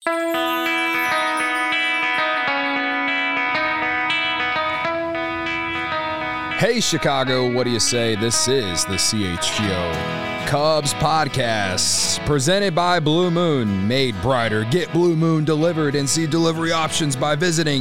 Hey, Chicago, what do you say? This is the CHGO Cubs podcast presented by Blue Moon. Made brighter. Get Blue Moon delivered and see delivery options by visiting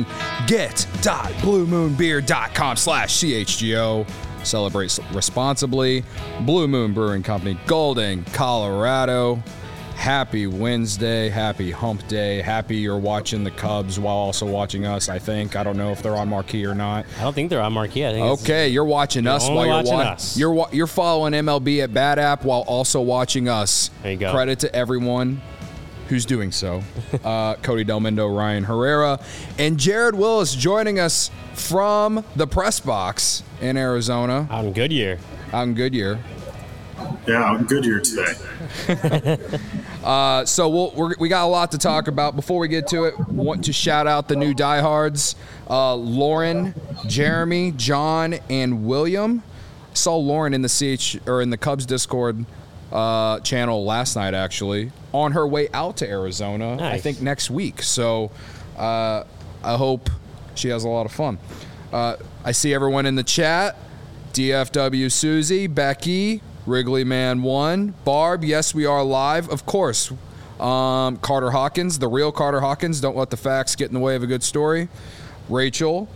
get.bluemoonbeer.com/CHGO. Celebrate responsibly. Blue Moon Brewing Company, Golden, Colorado. Happy Wednesday, happy hump day, happy you're watching the Cubs while also watching us, I think. I don't know if they're on marquee or not. I don't think they're on marquee. I think okay, you're watching us while you're watching us. You're following MLB at Bat App while also watching us. There you go. Credit to everyone who's doing so. Cody Delmendo, Ryan Herrera, and Jared Willis joining us from the press box in Arizona. Out in Goodyear. Yeah, I'm Goodyear today. So we got a lot to talk about. Before we get to it, want to shout out the new diehards, Lauren, Jeremy, John, and William. Saw Lauren in the Cubs Discord channel last night, actually, on her way out to Arizona. Nice. I think next week. So I hope she has a lot of fun. I see everyone in the chat. DFW Susie, Becky, Wrigley Man 1, Barb, yes, we are live, of course. Carter Hawkins, the real Carter Hawkins, don't let the facts get in the way of a good story. Rachel,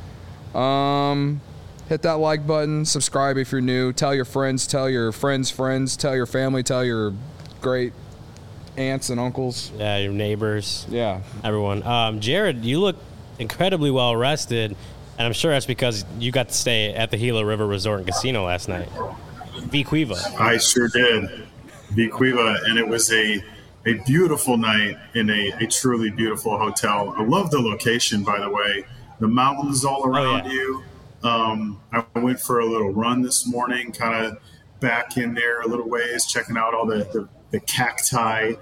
hit that like button, subscribe if you're new, tell your friends, tell your friends' friends, tell your family, tell your great aunts and uncles. Yeah, your neighbors. Yeah. Everyone. Jared, you look incredibly well rested, and I'm sure that's because you got to stay at the Gila River Resort and Casino last night. Vicuiva. I sure did. Vicuiva, and it was a beautiful night in a truly beautiful hotel. I love the location, by the way. The mountains all around you. I went for a little run this morning, kind of back in there a little ways, checking out all the cacti.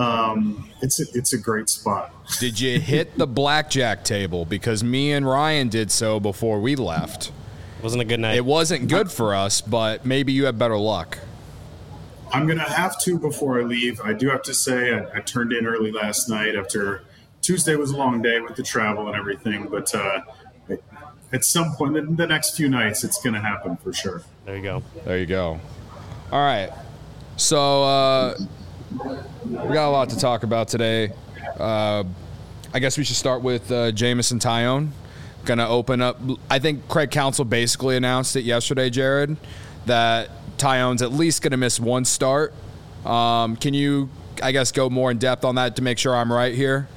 It's a great spot. Did you hit the blackjack table? Because me and Ryan did so before we left. Wasn't a good night. It wasn't good for us, but maybe you have better luck. I'm going to have to before I leave. I do have to say I turned in early last night after Tuesday was a long day with the travel and everything. But at some point in the next few nights, it's going to happen for sure. There you go. All right. So we got a lot to talk about today. I guess we should start with Jameson Taillon. Going to open up. I think Craig Counsell basically announced it yesterday, Jared, that Taillon's at least going to miss one start. Can you, I guess, go more in depth on that to make sure I'm right here?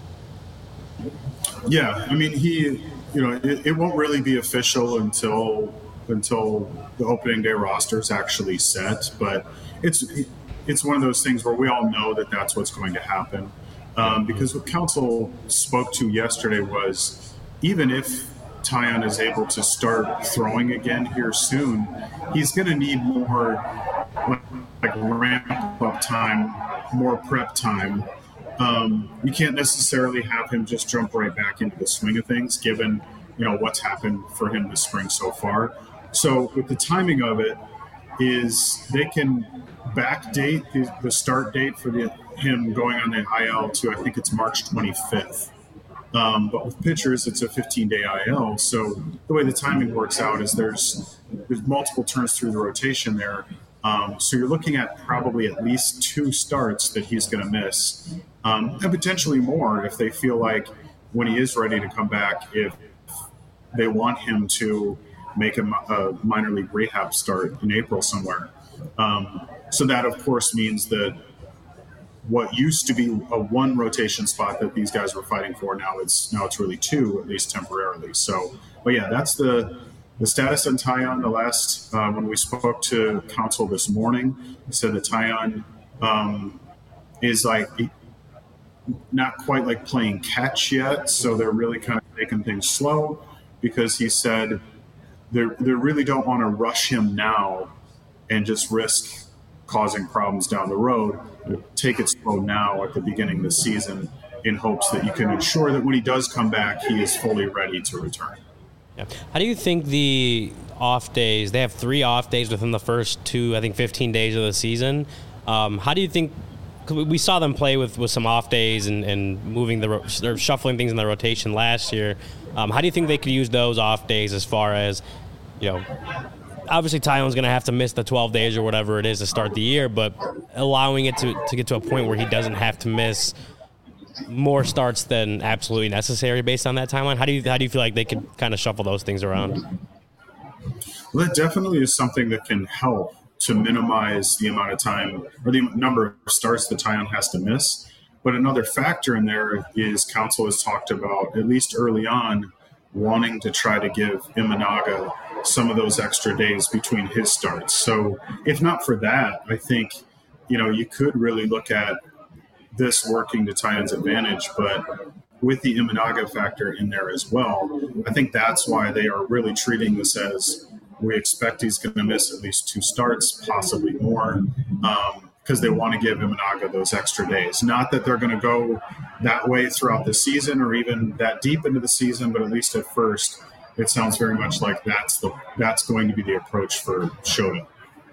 Yeah, I mean, it won't really be official until the opening day roster is actually set, but it's one of those things where we all know that that's what's going to happen. Because what Counsell spoke to yesterday was, even if Taillon is able to start throwing again here soon, he's going to need more like ramp-up time, more prep time. You can't necessarily have him just jump right back into the swing of things, given what's happened for him this spring so far. So with the timing of it, is they can backdate the start date for him going on the IL to, I think it's March 25th. But with pitchers, it's a 15-day IL. So the way the timing works out is there's multiple turns through the rotation there. So you're looking at probably at least 2 starts that he's going to miss, and potentially more if they feel like when he is ready to come back, if they want him to make a minor league rehab start in April somewhere. So that, of course, means that what used to be a 1 rotation spot that these guys were fighting for, now it's really 2, at least temporarily. So, but yeah, that's the status on Taillon. The last when we spoke to Counsell this morning, he said that Taillon is like not quite like playing catch yet, so they're really kind of taking things slow, because he said they really don't want to rush him now and just risk causing problems down the road. Take it slow now at the beginning of the season in hopes that you can ensure that when he does come back, he is fully ready to return. Yeah. How do you think the off days, they have 3 off days within the first 15 days of the season. How do you think 'cause we saw them play with some off days and moving or shuffling things in the rotation last year. How do you think they could use those off days as far as, obviously Tyone's going to have to miss the 12 days or whatever it is to start the year, but allowing it to get to a point where he doesn't have to miss more starts than absolutely necessary based on that timeline? How do you feel like they could kind of shuffle those things around? Well, that definitely is something that can help to minimize the amount of time or the number of starts that Tyon has to miss. But another factor in there is Council has talked about, at least early on, wanting to try to give Imanaga some of those extra days between his starts. So if not for that, I think, you could really look at this working to Tyon's advantage, but with the Imanaga factor in there as well, I think that's why they are really treating this as we expect he's going to miss at least 2 starts, possibly more, because they want to give Imanaga those extra days. Not that they're going to go that way throughout the season or even that deep into the season, but at least at first, it sounds very much like that's going to be the approach for Shota.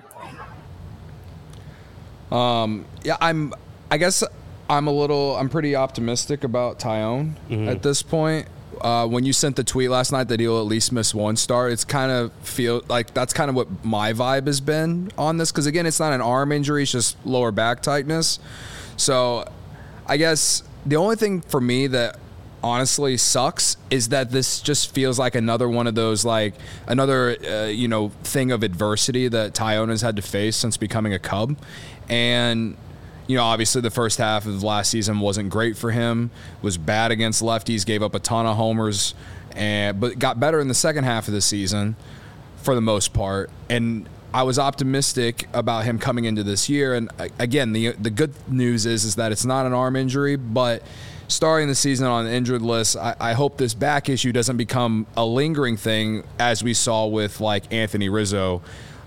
I'm pretty optimistic about Tyone at this point. When you sent the tweet last night that he'll at least miss 1 start, it's kind of feel like that's kind of what my vibe has been on this. Because again, it's not an arm injury; it's just lower back tightness. So, I guess the only thing for me that honestly sucks is that this just feels like another one of those another thing of adversity that Tyone has had to face since becoming a Cub, and. Obviously the first half of last season wasn't great for him, was bad against lefties, gave up a ton of homers, but got better in the second half of the season for the most part. And I was optimistic about him coming into this year. And again, the good news is that it's not an arm injury, but starting the season on the injured list, I hope this back issue doesn't become a lingering thing as we saw with Anthony Rizzo.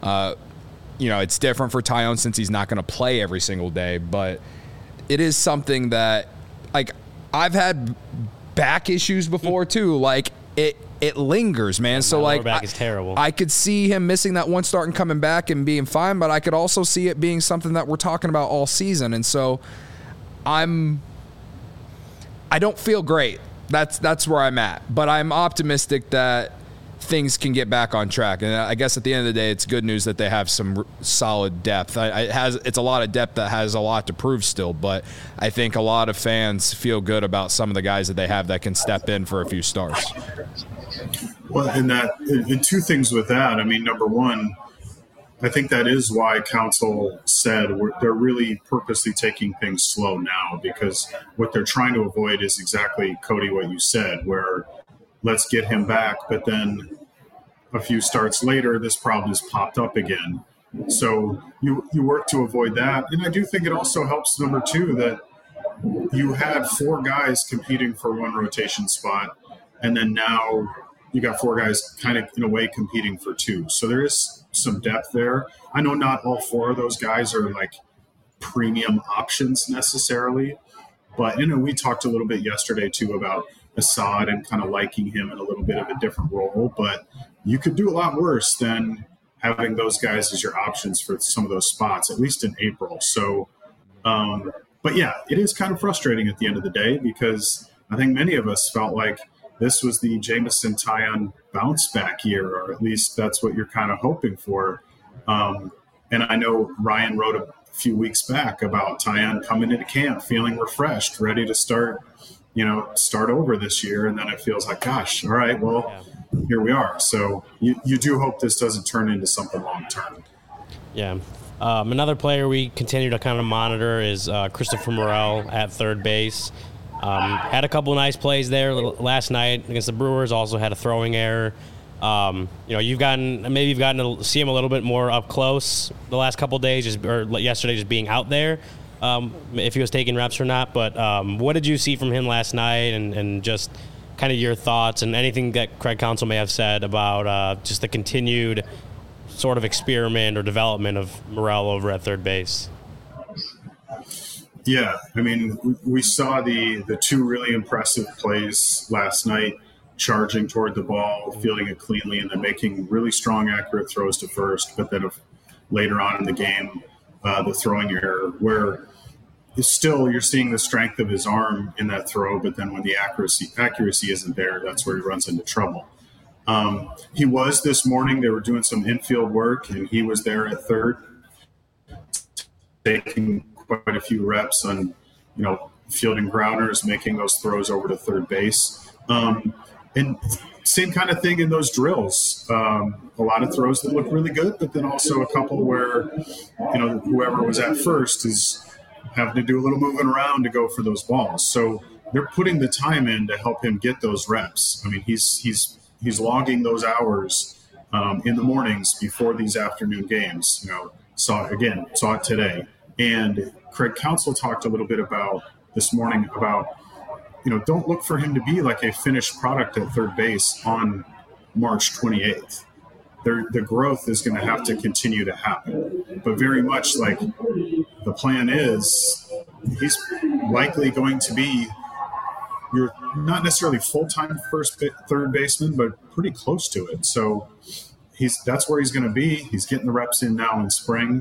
It's different for Tyone since he's not going to play every single day, but it is something that, I've had back issues before too. It lingers, man. So lower back is terrible. I could see him missing that 1 start and coming back and being fine, but I could also see it being something that we're talking about all season. And so I don't feel great. That's where I'm at, but I'm optimistic that things can get back on track. And I guess at the end of the day, it's good news that they have some solid depth. It's a lot of depth that has a lot to prove still, but I think a lot of fans feel good about some of the guys that they have that can step in for a few starts. Well, and 2 things with that. I mean, number one, I think that is why Council said they're really purposely taking things slow now, because what they're trying to avoid is exactly, Cody, what you said, where let's get him back, but then a few starts later, this problem has popped up again. So you work to avoid that. And I do think it also helps, number 2, that you had 4 guys competing for 1 rotation spot, and then now you got 4 guys kind of in a way competing for 2. So there is some depth there. I know not all 4 of those guys are premium options necessarily, but we talked a little bit yesterday too about Assad and kind of liking him in a little bit of a different role, but you could do a lot worse than having those guys as your options for some of those spots, at least in April. So, but yeah, it is kind of frustrating at the end of the day, because I think many of us felt like this was the Jameson Tyon bounce back year, or at least that's what you're kind of hoping for. And I know Ryan wrote a few weeks back about Tyon coming into camp feeling refreshed, ready to start over this year. And then it feels like, gosh, all right, well, here we are. So you do hope this doesn't turn into something long-term. Yeah. Another player we continue to kind of monitor is Christopher Morel at third base. Had a couple of nice plays there last night against the Brewers. Also had a throwing error. You've gotten to see him a little bit more up close the last couple of days, or yesterday, just being out there. If he was taking reps or not, but what did you see from him last night, and just kind of your thoughts and anything that Craig Counsell may have said about just the continued sort of experiment or development of Morel over at third base? Yeah, I mean, we saw the 2 really impressive plays last night, charging toward the ball, fielding it cleanly, and then making really strong, accurate throws to first. But then later on in the game, the throwing error, where still you're seeing the strength of his arm in that throw, but then when the accuracy isn't there, that's where he runs into trouble. He was this morning. They were doing some infield work, and he was there at third, taking quite a few reps on, fielding grounders, making those throws over to third base. And same kind of thing in those drills. A lot of throws that look really good, but then also a couple where, whoever was at first is having to do a little moving around to go for those balls. So they're putting the time in to help him get those reps. I mean, he's logging those hours in the mornings before these afternoon games. Saw it today. And Craig Counsell talked a little bit about this morning about, don't look for him to be like a finished product at third base on March 28th. The growth is going to have to continue to happen. But very much like the plan is, he's likely going to be your not necessarily full-time third baseman, but pretty close to it. So that's where he's going to be. He's getting the reps in now in spring.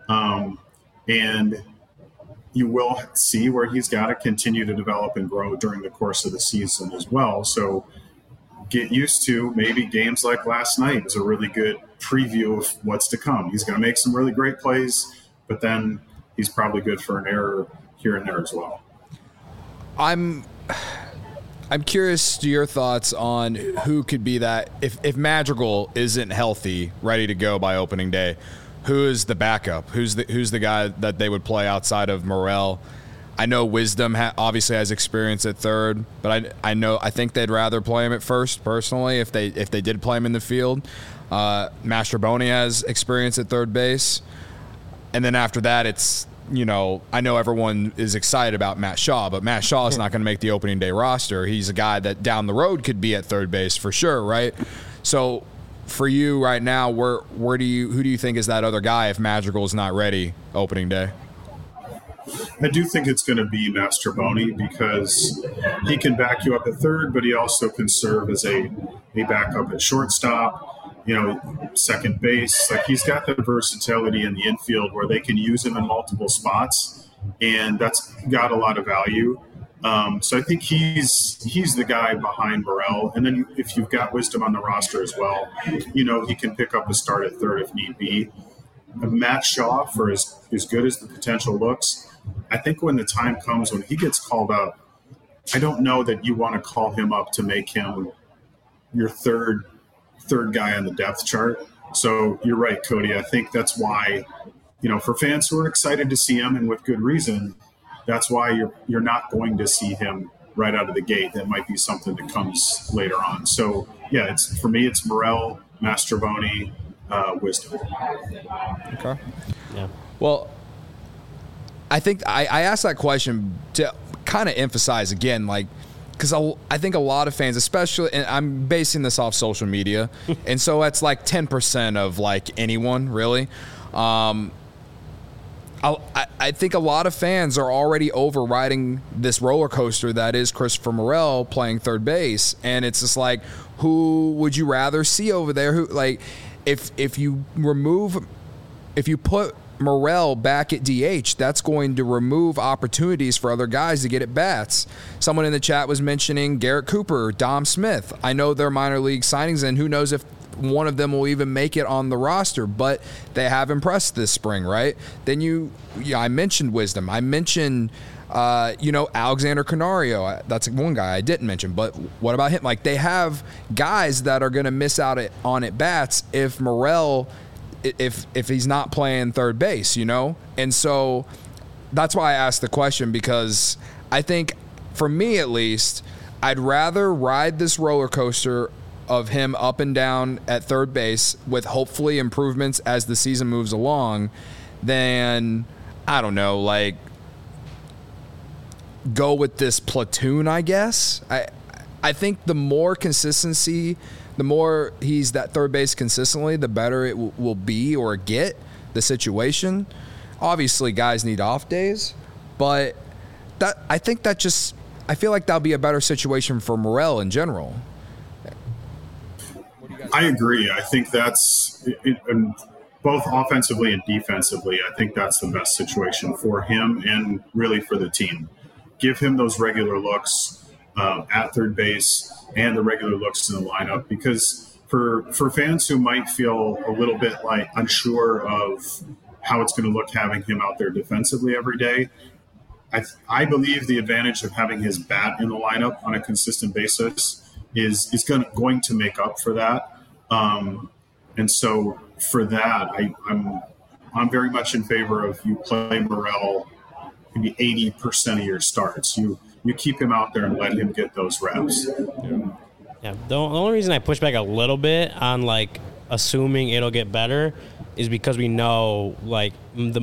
And you will see where he's got to continue to develop and grow during the course of the season as well. So get used to maybe games like last night is a really good preview of what's to come. He's going to make some really great plays, but then he's probably good for an error here and there as well. I'm curious to your thoughts on who could be that if Madrigal isn't healthy, ready to go by opening day. Who is the backup? Who's the guy that they would play outside of Morel? I know Wisdom obviously has experience at third, but I think they'd rather play him at first personally if they did play him in the field. Mastrobuoni has experience at third base, and then after that it's I know everyone is excited about Matt Shaw, but Matt Shaw is not going to make the opening day roster. He's a guy that down the road could be at third base for sure, right? So for you right now, who do you think is that other guy if Madrigal is not ready opening day? I do think it's going to be Mastrobuoni because he can back you up at third, but he also can serve as a backup at shortstop, second base. Like he's got the versatility in the infield where they can use him in multiple spots, and that's got a lot of value. So I think he's the guy behind Morel. And then if you've got Wisdom on the roster as well, he can pick up a start at third if need be. Matt Shaw, for as good as the potential looks, I think when the time comes when he gets called up, I don't know that you want to call him up to make him your third guy on the depth chart. So you're right, Cody. I think that's why, for fans who are excited to see him and with good reason, that's why you're not going to see him right out of the gate. That might be something that comes later on. So yeah, for me, it's Morel, Mastrobuoni, Wisdom. Okay. Yeah. Well, I think I asked that question to kind of emphasize again, because I think a lot of fans, especially, and I'm basing this off social media, and so that's like 10% of anyone really. I think a lot of fans are already overriding this roller coaster that is Christopher Morel playing third base, and it's just who would you rather see over there? Who if you put Morel back at DH, that's going to remove opportunities for other guys to get at bats. Someone in the chat was mentioning Garrett Cooper, Dom Smith. I know they're minor league signings, and who knows if one of them will even make it on the roster, but they have impressed this spring, right? Then I mentioned Wisdom. I mentioned, Alexander Canario. That's one guy I didn't mention, but what about him? They have guys that are going to miss out on at bats if Morel, if he's not playing third base, And so that's why I asked the question, because I think, for me at least, I'd rather ride this roller coaster of him up and down at third base with hopefully improvements as the season moves along than, I don't know, go with this platoon, I guess. I think the more consistency, the more he's that third base consistently, the better it will be or get the situation. Obviously, guys need off days, but I feel like that'll be a better situation for Morel in general. I agree. I think that's both offensively and defensively, I think that's the best situation for him and really for the team. Give him those regular looks at third base and the regular looks in the lineup, because for fans who might feel a little bit like unsure of how it's going to look having him out there defensively every day, I believe the advantage of having his bat in the lineup on a consistent basis is going to make up for that. And so for that, I'm very much in favor of you play Morel maybe 80% of your starts. You keep him out there and let him get those reps. Yeah. The only reason I push back a little bit on like assuming it'll get better is because we know like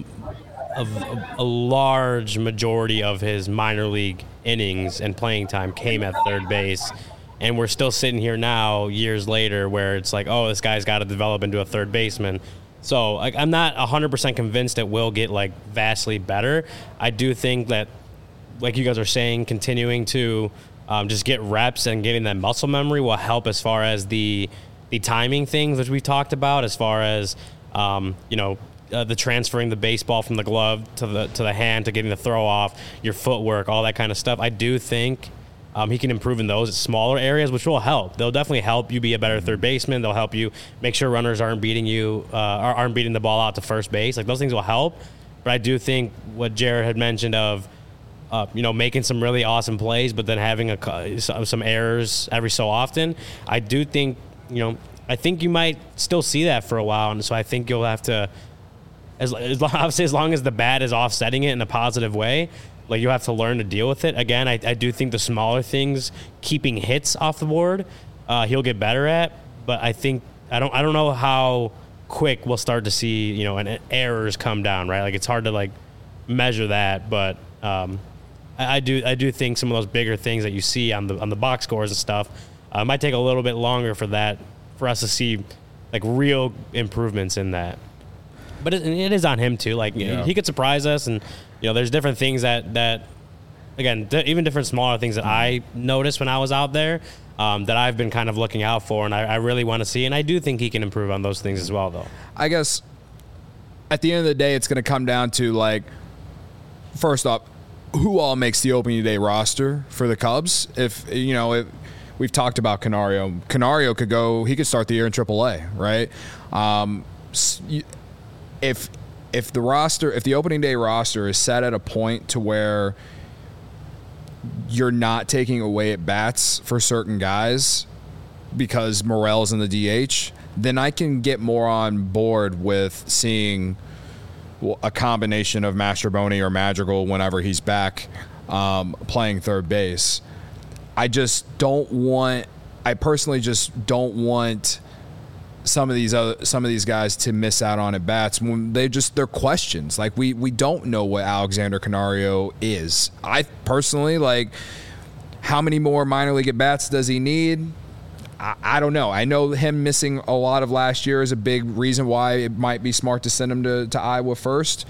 a large majority of his minor league innings and playing time came at third base. And we're still sitting here now, years later, where it's like, oh, this guy's got to develop into a third baseman. So like, I'm not 100% convinced it will get like vastly better. I do think that, like you guys are saying, continuing to just get reps and getting that muscle memory will help as far as the timing things, which we talked about, as far as the transferring the baseball from the glove to the hand, to getting the throw off, your footwork, all that kind of stuff. I do think he can improve in those smaller areas, which will help. They'll definitely help you be a better third baseman. They'll help you make sure runners aren't beating the ball out to first base. Like, those things will help. But I do think what Jared had mentioned of, making some really awesome plays, but then having some errors every so often. I do think, I think you might still see that for a while. And so I think you'll have to, as long as the bat is offsetting it in a positive way, like, you have to learn to deal with it. Again, I do think the smaller things, keeping hits off the board, he'll get better at. But I think I don't know how quick we'll start to see errors come down, right? Like, it's hard to like measure that, but I do think some of those bigger things that you see on the box scores and stuff might take a little bit longer for us to see like real improvements in that. But it is on him too. Like, he could surprise us, and there's different things that again, even different smaller things that I noticed when I was out there that I've been kind of looking out for, and I really want to see. And I do think he can improve on those things as well, though. I guess at the end of the day, it's going to come down to, like, first off, who all makes the opening day roster for the Cubs. If we've talked about Canario could start the year in AAA, right? If the opening day roster is set at a point to where you're not taking away at bats for certain guys because Morel's in the DH, then I can get more on board with seeing a combination of Mastrobuoni or Madrigal whenever he's back playing third base. I personally just don't want some of these guys to miss out on at bats when they're questions. Like, we don't know what Alexander Canario is. I personally, like, how many more minor league at bats does he need? I don't know. I know him missing a lot of last year is a big reason why it might be smart to send him to Iowa first.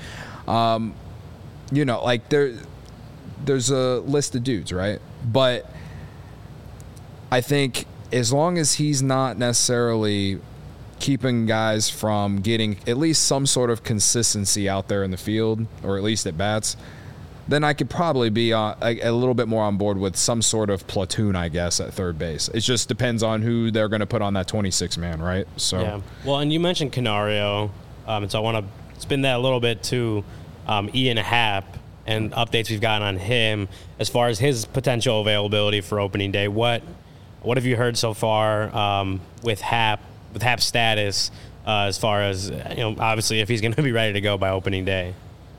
Like, there's a list of dudes, right? But I think as long as he's not necessarily keeping guys from getting at least some sort of consistency out there in the field, or at least at bats, then I could probably be a little bit more on board with some sort of platoon, I guess, at third base. It just depends on who they're going to put on that 26-man, right? So yeah. Well, and you mentioned Canario, and so I want to spin that a little bit to Ian Happ and updates we've gotten on him as far as his potential availability for opening day. What have you heard so far with Happ's status as far as, obviously if he's going to be ready to go by opening day?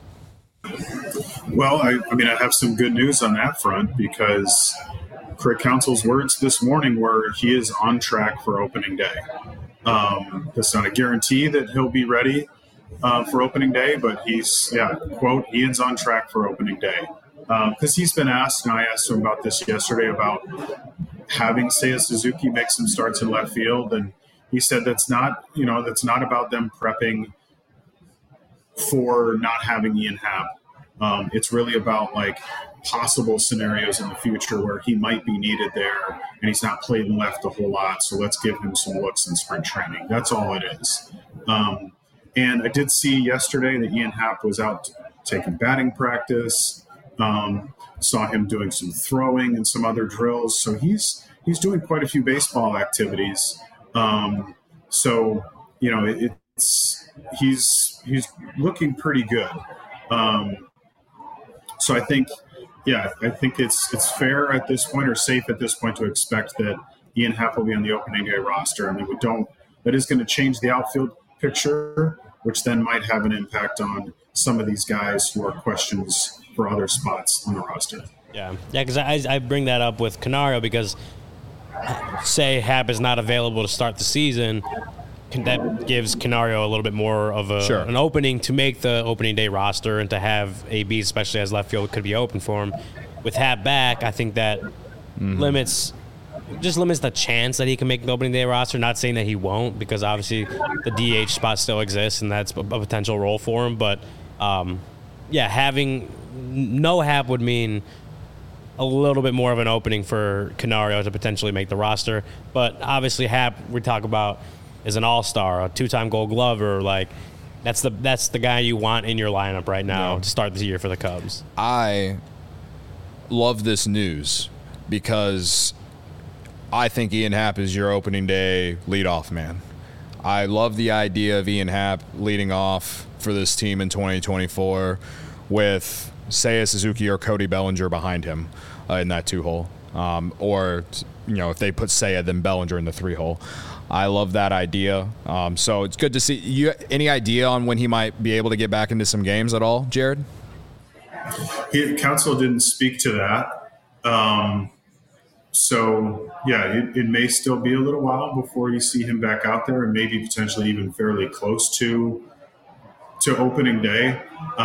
Well, I have some good news on that front, because Craig Counsell's words this morning were he is on track for opening day. That's not a guarantee that he'll be ready for opening day, but quote, Ian's on track for opening day. Because he's been asked, and I asked him about this yesterday, about having Seiya Suzuki make some starts in left field, and he said that's not about them prepping for not having Ian Happ. It's really about like possible scenarios in the future where he might be needed there and he's not played left a whole lot. So let's give him some looks in spring training. That's all it is. And I did see yesterday that Ian Happ was out taking batting practice. Saw him doing some throwing and some other drills. So he's doing quite a few baseball activities. So he's looking pretty good. So I think it's fair at this point, or safe at this point, to expect that Ian Happ will be on the opening day roster. I mean, that is going to change the outfield picture, which then might have an impact on some of these guys who are questions for other spots on the roster. Yeah, because I bring that up with Canario because, say, Happ is not available to start the season, that gives Canario a little bit more of an opening to make the opening day roster and to have AB, especially as left field, could be open for him. With Happ back, I think that limits the chance that he can make the opening day roster. Not saying that he won't, because obviously the DH spot still exists and that's a potential role for him. But having no Happ would mean a little bit more of an opening for Canario to potentially make the roster. But obviously Happ, we talk about, is an all-star, a two-time Gold Glover. Like, that's the guy you want in your lineup right now to start the year for the Cubs. I love this news because I think Ian Happ is your opening day leadoff man. I love the idea of Ian Happ leading off for this team in 2024 with Seiya Suzuki or Cody Bellinger behind him in that 2-hole. Or, if they put Seiya, then Bellinger in the 3-hole. I love that idea. So it's good to see. You any idea on when he might be able to get back into some games at all, Jared? Council didn't speak to that. So, it may still be a little while before you see him back out there, and maybe potentially even fairly close to opening day.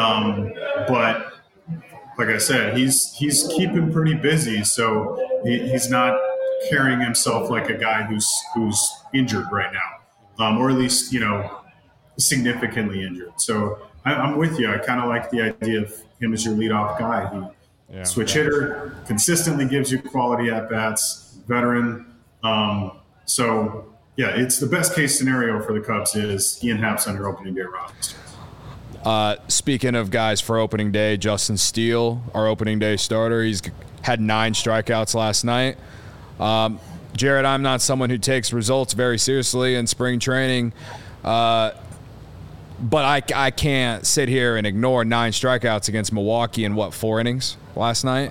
But like I said, he's keeping pretty busy, so he's not carrying himself like a guy who's injured right now, or at least significantly injured. So I'm with you. I kind of like the idea of him as your leadoff guy. Switch hitter, consistently gives you quality at bats, veteran. It's the best case scenario for the Cubs is Ian Happ's on your opening day roster. Speaking of guys for opening day, Justin Steele, our opening day starter, he's had 9 strikeouts last night. Jared, I'm not someone who takes results very seriously in spring training, but I can't sit here and ignore 9 strikeouts against Milwaukee in 4 innings last night.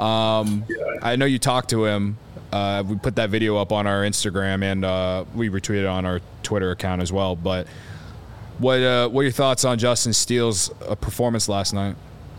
I know you talked to him. We put that video up on our Instagram and we retweeted on our Twitter account as well. But what are your thoughts on Justin Steele's performance last night?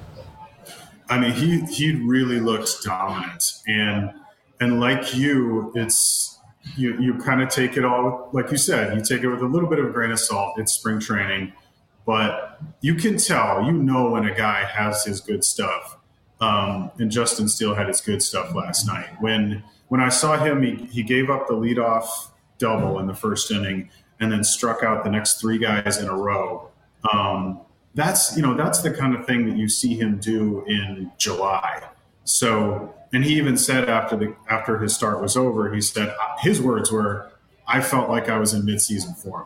I mean, he really looked dominant, and like you, it's you kind of take it all, like you said, you take it with a little bit of a grain of salt. It's spring training, but you can tell, when a guy has his good stuff. And Justin Steele had his good stuff last night. When I saw him, he gave up the leadoff double in the first inning and then struck out the next 3 guys in a row. That's the kind of thing that you see him do in July. So, and he even said after his start was over, he said his words were, "I felt like I was in midseason form."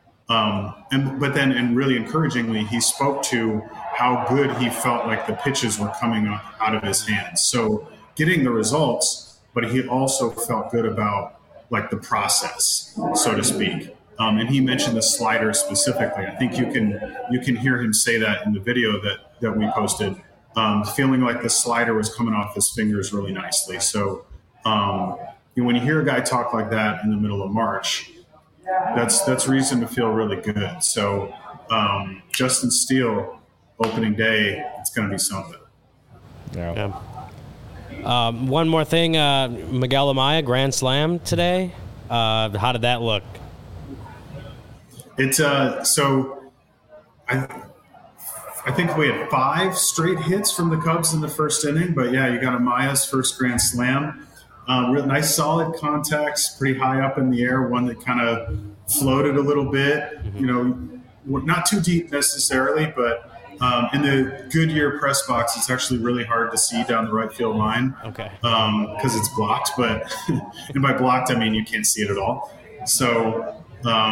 But then really encouragingly, he spoke to how good he felt like the pitches were coming up out of his hands. So getting the results, but he also felt good about like the process, so to speak. And he mentioned the slider specifically. I think you can hear him say that in the video that we posted, feeling like the slider was coming off his fingers really nicely. So when you hear a guy talk like that in the middle of March, that's reason to feel really good. So Justin Steele, opening day, it's going to be something. Yeah. One more thing, Miguel Amaya, grand slam today. How did that look? It's so I think we had 5 straight hits from the Cubs in the first inning, but yeah, you got Amaya's first grand slam. Real nice, solid contacts, pretty high up in the air. One that kind of floated a little bit, not too deep necessarily, but in the Goodyear press box, it's actually really hard to see down the right field line. Okay. Because it's blocked, but and by blocked I mean you can't see it at all. So,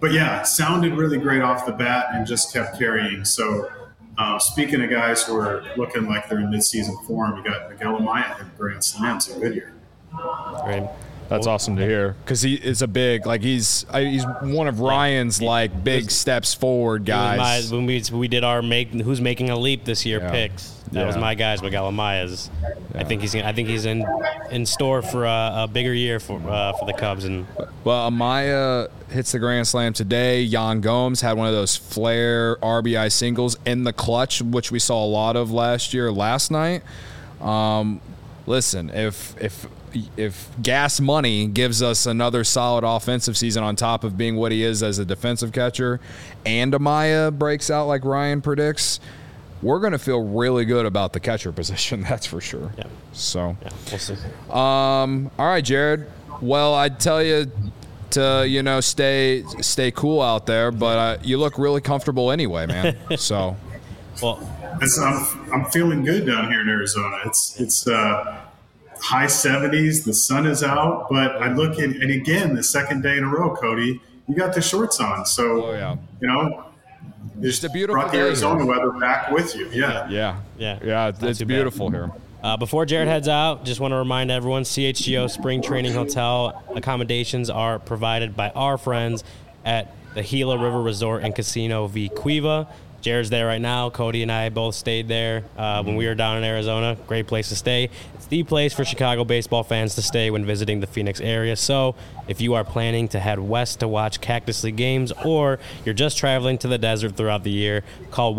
but yeah, it sounded really great off the bat and just kept carrying. So speaking of guys who are looking like they're in mid-season form, you got Miguel Amaya in Grand Slams a good year. Right. That's awesome to hear because he is a big he's one of Ryan's big steps forward guys. When we did our who's making a leap this year picks, that was my guys, Miguel Amaya's. Yeah. I think he's in store for a bigger year for the Cubs. And well, Amaya hits the Grand Slam today. Yan Gomes had one of those flare RBI singles in the clutch, which we saw a lot of last night. Listen, if Gas Money gives us another solid offensive season on top of being what he is as a defensive catcher, and Amaya breaks out like Ryan predicts, we're going to feel really good about the catcher position. That's for sure. Yeah. So, we'll see. All right, Jared. Well, I'd tell you to stay cool out there, but you look really comfortable anyway, man. So, well, I'm feeling good down here in Arizona. It's high 70s. The sun is out, but I look at, and again, the second day in a row, Cody, you got the shorts on. So, just a beautiful brought the Arizona weather back with you. Yeah. It's beautiful here. Before Jared heads out, just want to remind everyone, CHGO Spring Training Hotel accommodations are provided by our friends at the Gila River Resort and Casino V Cueva. Jared's there right now. Cody and I both stayed there when we were down in Arizona. Great place to stay. It's the place for Chicago baseball fans to stay when visiting the Phoenix area. So if you are planning to head west to watch Cactus League games, or you're just traveling to the desert throughout the year, call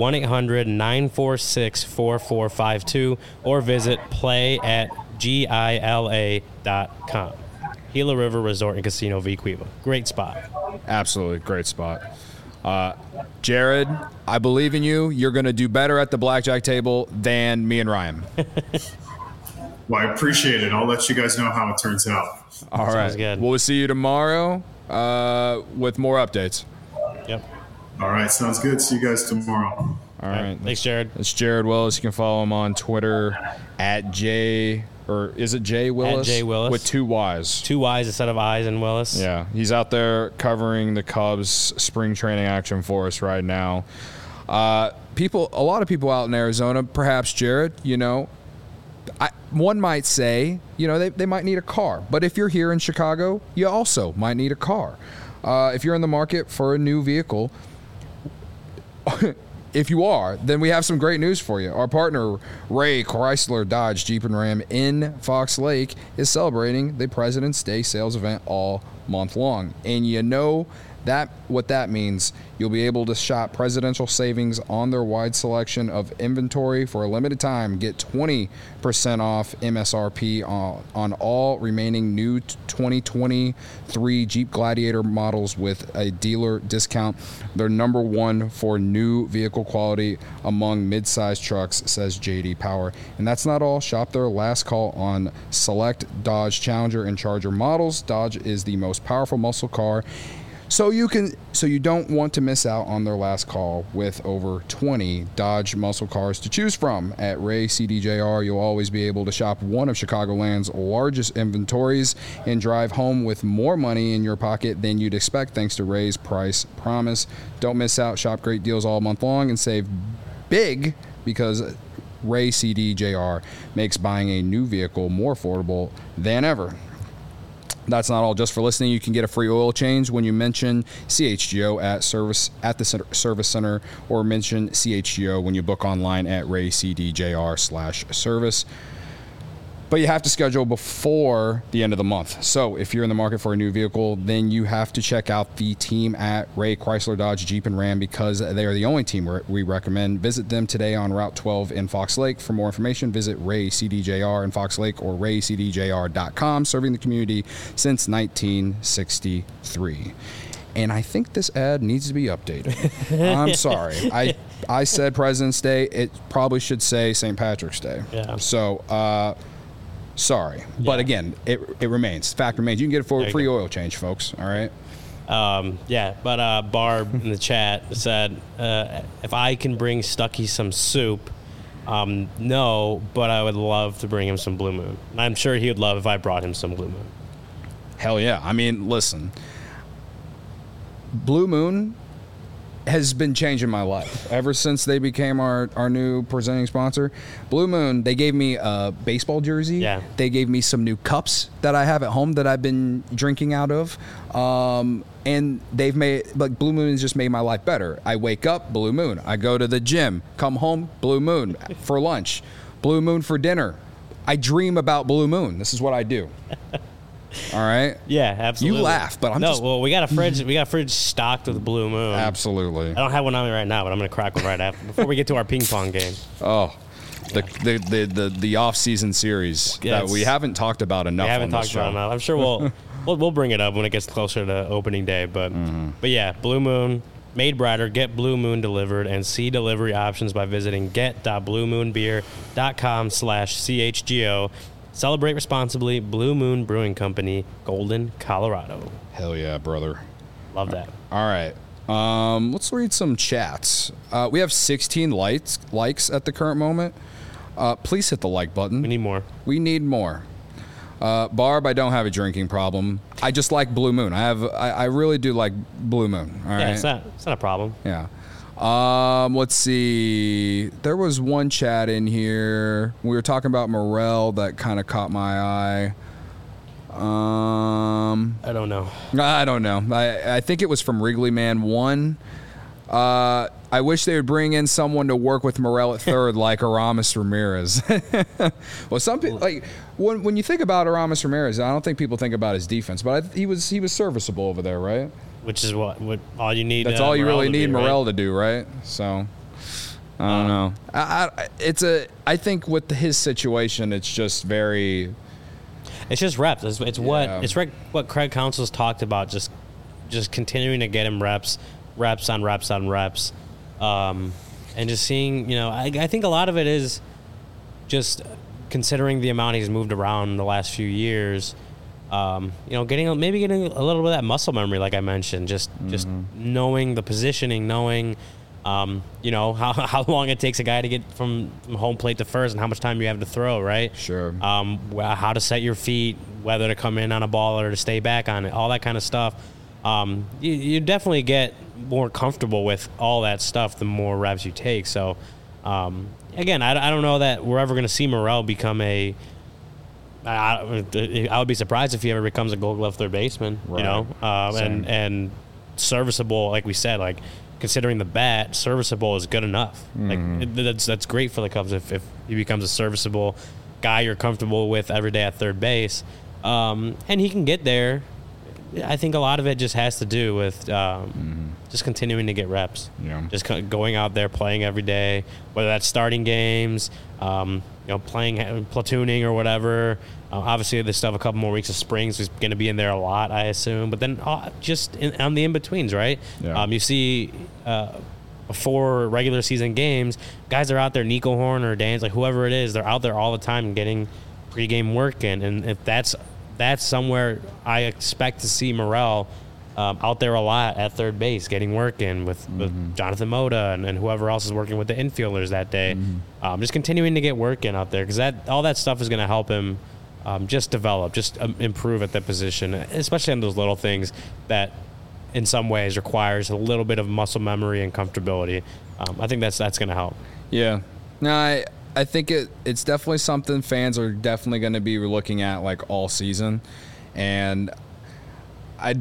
1-800-946-4452 or visit play@gila.com. Gila River Resort and Casino V Cueva. Great spot. Absolutely great spot. Jared, I believe in you. You're going to do better at the blackjack table than me and Ryan. Well, I appreciate it. I'll let you guys know how it turns out. All right. Sounds good. We'll see you tomorrow with more updates. Yep. All right. Sounds good. See you guys tomorrow. All right. Thanks, Jared. It's Jared Willis. You can follow him on Twitter at J Willis? At J Willis. With 2 Y's. 2 Y's instead of I's in Willis. Yeah. He's out there covering the Cubs spring training action for us right now. A lot of people out in Arizona, perhaps Jared, one might say, they might need a car. But if you're here in Chicago, you also might need a car. If you're in the market for a new vehicle, if you are, then we have some great news for you. Our partner, Ray Chrysler Dodge Jeep and Ram in Fox Lake, is celebrating the President's Day sales event all month long. And what that means, you'll be able to shop presidential savings on their wide selection of inventory for a limited time. Get 20% off MSRP on all remaining new 2023 Jeep Gladiator models with a dealer discount. They're number one for new vehicle quality among mid-sized trucks, says JD Power. And that's not all. Shop their last call on select Dodge Challenger and Charger models. Dodge is the most powerful muscle car. So you don't want to miss out on their last call with over 20 Dodge muscle cars to choose from. At Ray CDJR, you'll always be able to shop one of Chicagoland's largest inventories and drive home with more money in your pocket than you'd expect thanks to Ray's price promise. Don't miss out. Shop great deals all month long and save big because Ray CDJR makes buying a new vehicle more affordable than ever. That's not all. Just for listening, you can get a free oil change when you mention CHGO at the service center, or mention CHGO when you book online at raycdjr/service. But you have to schedule before the end of the month. So if you're in the market for a new vehicle, then you have to check out the team at Ray Chrysler Dodge Jeep and Ram, because they are the only team we recommend. Visit them today on Route 12 in Fox Lake. For more information, visit Ray CDJR in Fox Lake or raycdjr.com, serving the community since 1963. And I think this ad needs to be updated. I'm sorry. I said President's Day. It probably should say St. Patrick's Day. Yeah. So, sorry. Yeah. But again, it remains. Fact remains. You can get a free oil change, folks. All right? But Barb in the chat said, if I can bring Stuckey some soup, no, but I would love to bring him some Blue Moon. And I'm sure he would love if I brought him some Blue Moon. Hell yeah. I mean, listen. Blue Moon has been changing my life ever since they became our new presenting sponsor. Blue Moon, they gave me a baseball jersey. Yeah. They gave me some new cups that I have at home that I've been drinking out of. And they've made, like, Blue Moon has just made my life better. I wake up, Blue Moon. I go to the gym, come home, Blue Moon for lunch, Blue Moon for dinner. I dream about Blue Moon. This is what I do. All right. Yeah, absolutely. You laugh, but I'm no. just Well, we got a fridge. We got a fridge stocked with Blue Moon. absolutely. I don't have one on me right now, but I'm gonna crack one right after before we get to our ping pong game. Oh, the off-season series that we haven't talked about enough. We haven't on this talked about it show. enough. I'm sure we'll bring it up when it gets closer to opening day. But yeah, Blue Moon made brighter. Get Blue Moon delivered and see delivery options by visiting get.bluemoonbeer.com/chgo. Celebrate responsibly. Blue Moon Brewing Company, Golden, Colorado. Hell yeah, brother. Love that. All right. Let's read some chats. We have 16 likes at the current moment. Please hit the like button. We need more. We need more. Barb, I don't have a drinking problem. I just like Blue Moon. I really do like Blue Moon. All right. Yeah, it's not a problem. Yeah. Let's see. There was one chat in here. We were talking about Morel that kind of caught my eye. I don't know. I don't know. I think it was from Wrigley Man 1. I wish they would bring in someone to work with Morel at third, like Aramis Ramirez. Well, some people, like, when you think about Aramis Ramirez, I don't think people think about his defense, but he was serviceable over there, right? Which is what all you need. That's all you Morel really to need be, Morel right? to do, right? So I don't know. I think with his situation, it's just very. It's just reps. It's Yeah. what Craig Counsell's talked about. Just continuing to get him reps on reps, and just seeing. You know, I think a lot of it is just considering the amount he's moved around in the last few years. You know, getting a little bit of that muscle memory, like I mentioned, just knowing the positioning, knowing, you know, how long it takes a guy to get from home plate to first and how much time you have to throw, right? Sure. How to set your feet, whether to come in on a ball or to stay back on it, all that kind of stuff. You definitely get more comfortable with all that stuff the more reps you take. So, again, I don't know that we're ever going to see Morel become a. I would be surprised if he ever becomes a Gold Glove third baseman, Right. you know, and serviceable, like we said, like considering the bat, serviceable is good enough. Like that's great for the Cubs if he becomes a serviceable guy you're comfortable with every day at third base, and he can get there. I think a lot of it just has to do with just continuing to get reps. Yeah. Just going out there playing every day, whether that's starting games, you know, playing platooning or whatever. Obviously, there's still have a couple more weeks of spring, so he's going to be in there a lot, I assume. But then just on the in-betweens, right? Yeah. You see before regular season games, guys are out there, Nico Horn or Dan's, like whoever it is, they're out there all the time getting pregame work in. And if that's somewhere I expect to see Morel out there a lot at third base, getting work in with Jonathan Moda and whoever else is working with the infielders that day. Just continuing to get work in out there because all that stuff is going to help him just develop, just improve at that position, especially on those little things that in some ways requires a little bit of muscle memory and comfortability. I think that's going to help. Yeah. No, I think it's definitely something fans are definitely going to be looking at like all season, and I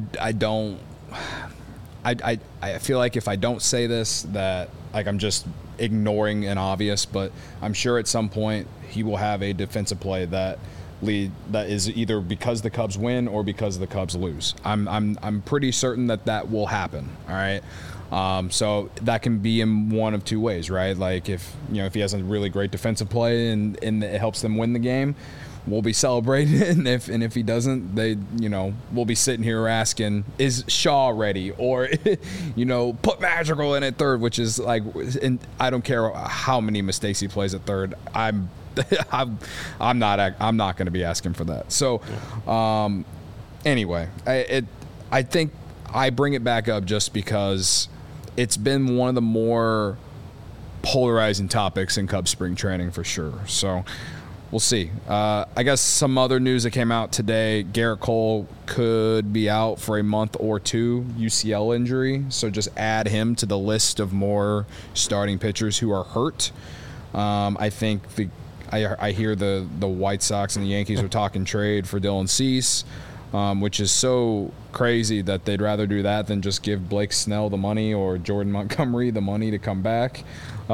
feel like if I don't say this that like I'm just ignoring an obvious, but I'm sure at some point he will have a defensive play that is either because the Cubs win or because the Cubs lose. I'm pretty certain that will happen. All right. So that can be in one of two ways, right? Like if he has a really great defensive play and it helps them win the game, we'll be celebrating it. And if he doesn't, we'll be sitting here asking, is Shaw ready? Or, put Madrigal in at third, which is like, and I don't care how many mistakes he plays at third. I'm not going to be asking for that. So, anyway, I think I bring it back up just because it's been one of the more polarizing topics in Cubs spring training for sure. So, we'll see. I guess some other news that came out today, Garrett Cole could be out for a month or two, UCL injury. So just add him to the list of more starting pitchers who are hurt. I think I hear the White Sox and the Yankees are talking trade for Dylan Cease, which is so crazy that they'd rather do that than just give Blake Snell the money or Jordan Montgomery the money to come back.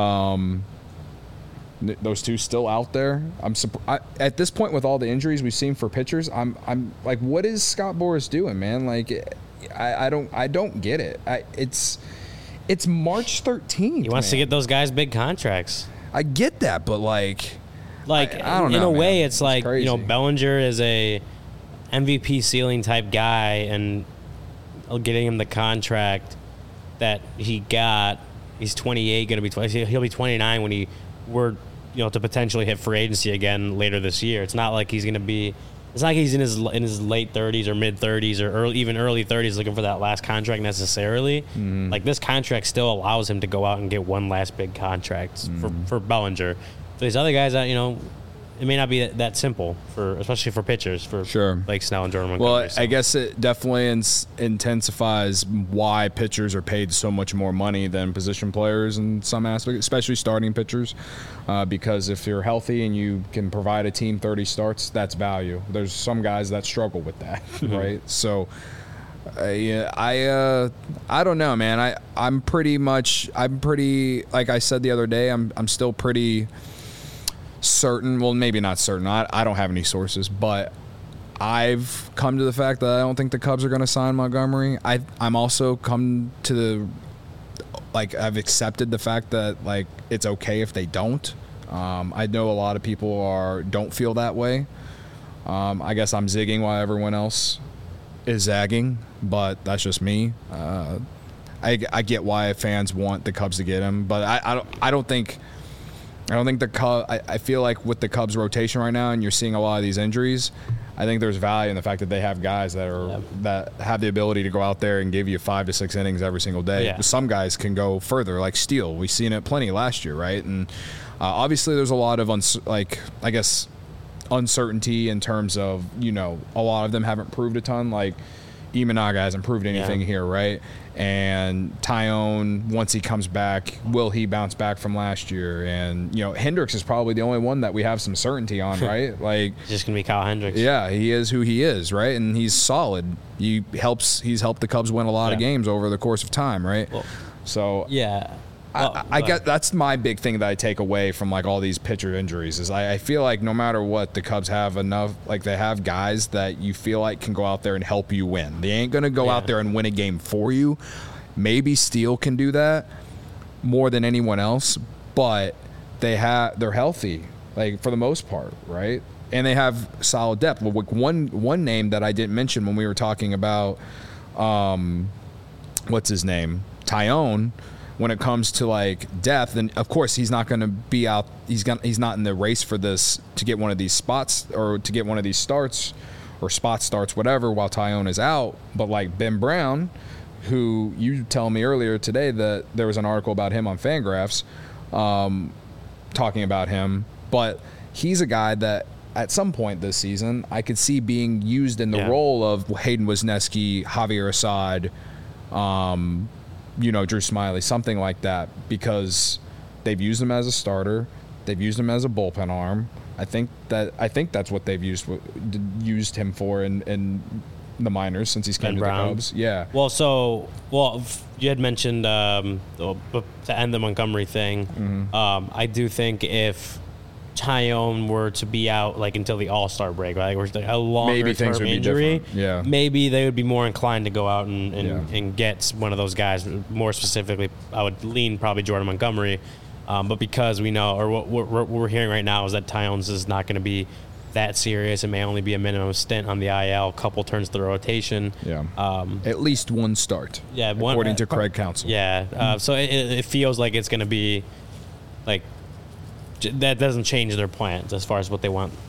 Those two still out there. At this point, with all the injuries we've seen for pitchers, I'm like, what is Scott Boras doing, man? Like, I don't get it. It's March 13th. He wants to get those guys big contracts. I get that, but like I don't know. In a way, man. it's like crazy. Bellinger is a MVP ceiling type guy, and getting him the contract that he got. He's 28, going to be 20. He'll be 29 when to potentially hit free agency again later this year. It's not like he's going to be. It's not like he's in his late 30s or mid 30s or even early 30s looking for that last contract necessarily. Mm-hmm. Like, this contract still allows him to go out and get one last big contract for Bellinger. For these other guys, it may not be that simple especially for pitchers, for sure. Blake Snell and Jordan Montgomery. Well, I guess it definitely intensifies why pitchers are paid so much more money than position players in some aspects, especially starting pitchers, because if you're healthy and you can provide a team 30 starts, that's value. There's some guys that struggle with that, right? So, I don't know, man. I'm pretty, like I said the other day, I'm still pretty certain, well, maybe not certain. I don't have any sources, but I've come to the fact that I don't think the Cubs are going to sign Montgomery. I'm also come to I've accepted the fact that it's okay if they don't. I know a lot of people don't feel that way. I guess I'm zigging while everyone else is zagging, but that's just me. I get why fans want the Cubs to get him, but I don't think the Cubs. I feel like with the Cubs rotation right now, and you're seeing a lot of these injuries, I think there's value in the fact that they have guys that have the ability to go out there and give you 5 to 6 innings every single day. Yeah. Some guys can go further, like Steele. We've seen it plenty last year, right? And obviously, there's a lot of uncertainty in terms of a lot of them haven't proved a ton. Like Imanaga hasn't proved anything here, right? And Tyone, once he comes back, will he bounce back from last year? And Hendricks is probably the only one that we have some certainty on, right? Like, it's just gonna be Kyle Hendricks. Yeah, he is who he is, right? And he's solid. He's helped the Cubs win a lot of games over the course of time, right? Well, so yeah. I get that's my big thing that I take away from all these pitcher injuries is I feel like no matter what, the Cubs have enough, they have guys that you feel like can go out there and help you win. They ain't gonna go out there and win a game for you. Maybe Steele can do that more than anyone else, but they're healthy, for the most part, right? And they have solid depth. Well, one name that I didn't mention when we were talking about what's his name? Tyone. When it comes to depth, and of course he's not going to be out. He's not in the race for this to get one of these spots or to get one of these starts or spot starts, whatever. While Tyone is out, but Ben Brown, who you tell me earlier today that there was an article about him on Fangraphs, talking about him, but he's a guy that at some point this season I could see being used in the role of Hayden Wesneski, Javier Assad. Drew Smiley, something like that, because they've used him as a starter, they've used him as a bullpen arm. I think that's what they've used him for in the minors since he's come to the Cubs. Yeah. Well, you had mentioned to end the Montgomery thing. Mm-hmm. I do think if Tyone were to be out until the All-Star break, right, or a longer term injury, maybe they would be more inclined to go out and get one of those guys. More specifically, I would lean probably Jordan Montgomery, but because we know, or what we're hearing right now is that Tyone's is not going to be that serious. It may only be a minimum stint on the IL, couple turns to the rotation. Yeah, at least one start. Yeah, according to Craig Counsell. Yeah, so it feels like it's going to be that doesn't change their plans as far as what they want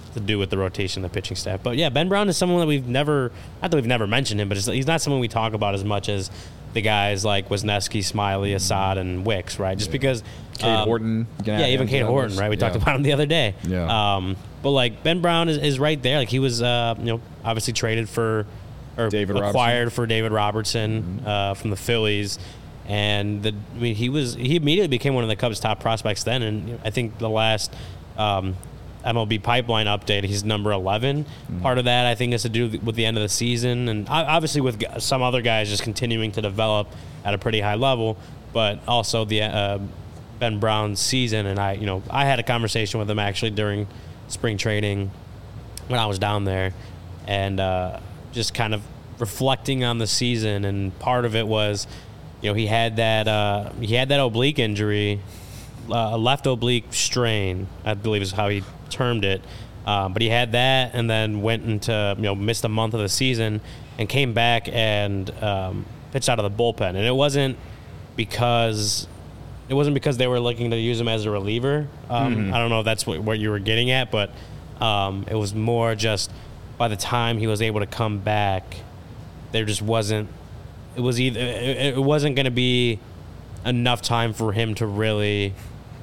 to do with the rotation of the pitching staff. But yeah, Ben Brown is someone that not that we've never mentioned him, but he's not someone we talk about as much as the guys like Wisniewski, Smiley, Assad, and Wicks, right? Just because Cade Horton. Even Cade Horton, right? We talked about him the other day. Yeah. But like Ben Brown is right there. Like he was, obviously traded for or acquired for David Robertson from the Phillies, and he immediately became one of the Cubs' top prospects then. And I think the last MLB Pipeline update, he's number 11. Part of that I think has to do with the end of the season, and obviously with some other guys just continuing to develop at a pretty high level, but also the Ben Brown's season. And I had a conversation with him actually during spring training when I was down there, and just kind of reflecting on the season. And part of it was, he had that oblique injury, a left oblique strain, I believe is how he termed it. But he had that, and then went into missed a month of the season, and came back and pitched out of the bullpen. And it wasn't because they were looking to use him as a reliever. I don't know if that's what you were getting at, but it was more just by the time he was able to come back, there just wasn't. It wasn't going to be enough time for him to really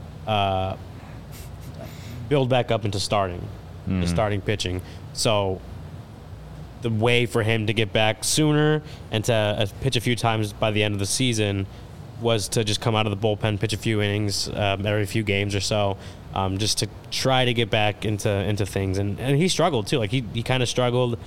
build back up into starting pitching. So the way for him to get back sooner and to pitch a few times by the end of the season was to just come out of the bullpen, pitch a few innings every few games or so, just to try to get back into things. And he struggled too. Like he kind of struggled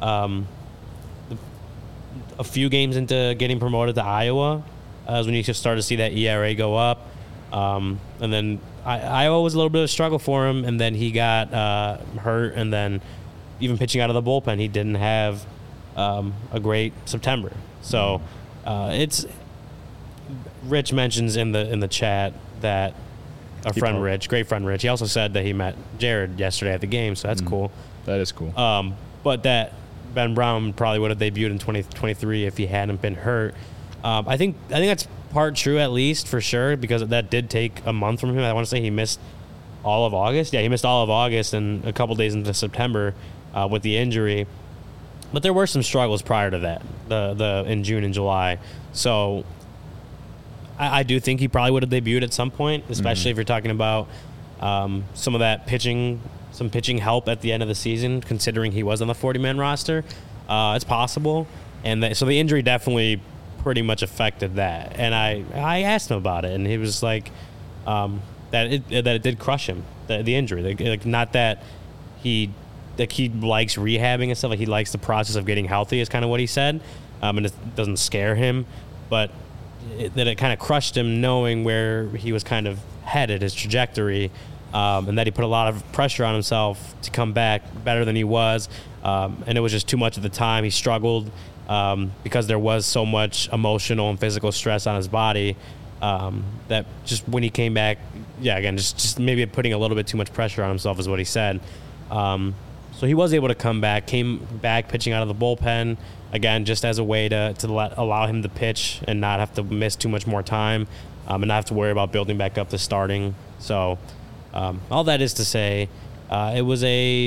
a few games into getting promoted to Iowa, as when you just started to see that ERA go up. And then Iowa was a little bit of a struggle for him, and then he got hurt, and then even pitching out of the bullpen, he didn't have a great September. So it's Rich mentions in the chat that our friend Rich, great friend Rich, he also said that he met Jared yesterday at the game, so that's cool. That is cool. But that Ben Brown probably would have debuted in 2023 if he hadn't been hurt. I think that's part true, at least, for sure, because that did take a month from him. I want to say he missed all of August. Yeah, he missed all of August and a couple days into September with the injury. But there were some struggles prior to that, the in June and July. So I do think he probably would have debuted at some point, especially if you're talking about some of that pitching help at the end of the season, considering he was on the 40-man roster. It's possible. And so the injury definitely pretty much affected that. And I asked him about it, and he was like that it did crush him, the injury. Like not that he likes rehabbing and stuff, like he likes the process of getting healthy is kind of what he said, and it doesn't scare him, but that it kind of crushed him knowing where he was kind of headed, his trajectory, and that he put a lot of pressure on himself to come back better than he was, and it was just too much at the time. He struggled because there was so much emotional and physical stress on his body, that just when he came back, again, just maybe putting a little bit too much pressure on himself is what he said. So he was able to came back pitching out of the bullpen, again, just as a way to allow him to pitch and not have to miss too much more time, and not have to worry about building back up to starting. So all that is to say, it was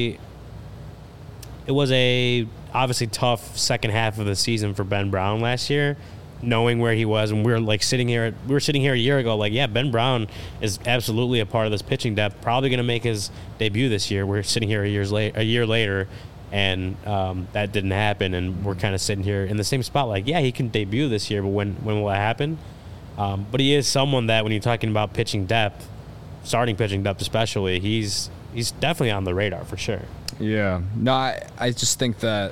a obviously tough second half of the season for Ben Brown last year, knowing where he was. And we were sitting here a year ago, like, yeah, Ben Brown is absolutely a part of this pitching depth, probably going to make his debut this year. We're sitting here a year later, and that didn't happen. And we're kind of sitting here in the same spot, like, yeah, he can debut this year, but when will it happen? But he is someone that when you're talking about pitching depth, starting pitching depth especially, he's definitely on the radar for sure. Yeah. No, I just think that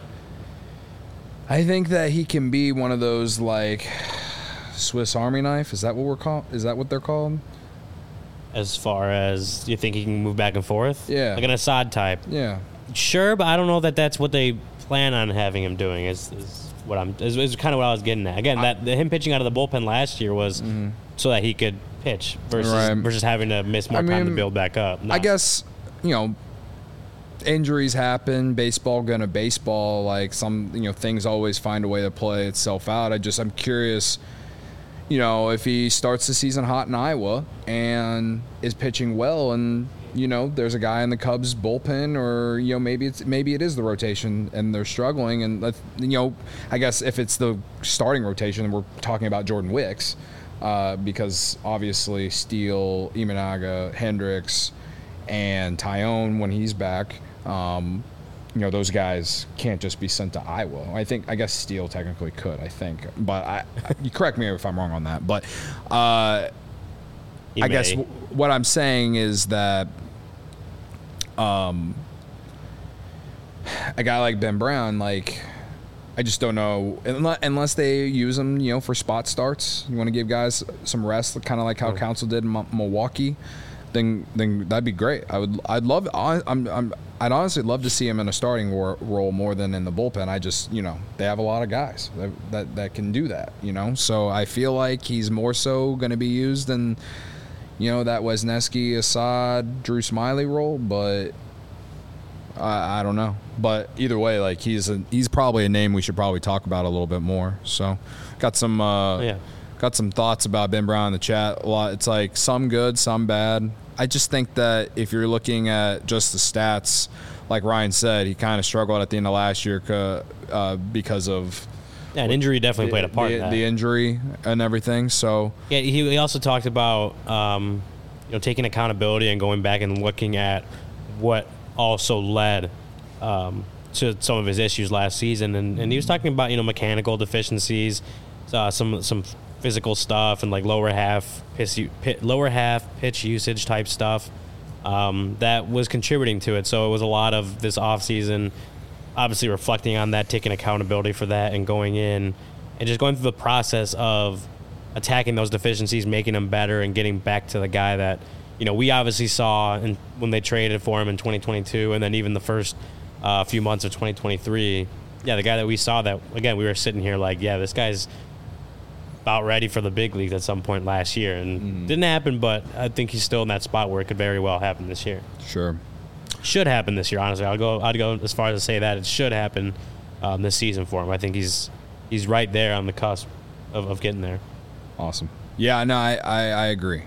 he can be one of those, like, Swiss Army knife. Is that what they're called? As far as you think he can move back and forth? Yeah. Like an Assad type? Yeah. Sure, but I don't know that that's what they plan on having him doing is kind of what I was getting at. Again, him pitching out of the bullpen last year was so that he could pitch versus having to miss more time to build back up. No. I guess, injuries happen, baseball gonna baseball, like some, things always find a way to play itself out. I'm curious, if he starts the season hot in Iowa and is pitching well and there's a guy in the Cubs bullpen, or maybe it is the rotation and they're struggling, and I guess if it's the starting rotation, we're talking about Jordan Wicks, because obviously Steele, Imanaga, Hendricks, and Tyone when he's back. Those guys can't just be sent to Iowa. I guess Steele technically could, but you correct me if I'm wrong on that. But I guess what I'm saying is that a guy like Ben Brown, I just don't know, unless they use him, for spot starts. You want to give guys some rest, kind of like how Council did in Milwaukee. Then that'd be great. I'd honestly love to see him in a starting role more than in the bullpen. I just, they have a lot of guys that can do that, So I feel like he's more so going to be used in, that Wesneski, Assad, Drew Smiley role, but I don't know. But either way, he's probably a name we should probably talk about a little bit more. So got some thoughts about Ben Brown in the chat. A lot. It's some good, some bad. I just think that if you're looking at just the stats, like Ryan said, he kind of struggled at the end of last year because of an injury. Definitely played a part in that. The injury and everything. So yeah, he also talked about taking accountability and going back and looking at what also led to some of his issues last season, and he was talking about mechanical deficiencies, some physical stuff, and lower half pitch usage type stuff that was contributing to it. So it was a lot of this offseason, obviously reflecting on that, taking accountability for that, and going in and just going through the process of attacking those deficiencies, making them better, and getting back to the guy that we obviously saw when they traded for him in 2022, and then even the first few months of 2023. Yeah, the guy that we saw that, again, we were sitting here this guy's about ready for the big leagues at some point last year, and didn't happen, but I think he's still in that spot where it could very well happen this year. Sure. Should happen this year, honestly. I'd go as far as to say that it should happen this season for him. I think he's right there on the cusp of getting there. Awesome. Yeah, no, I agree.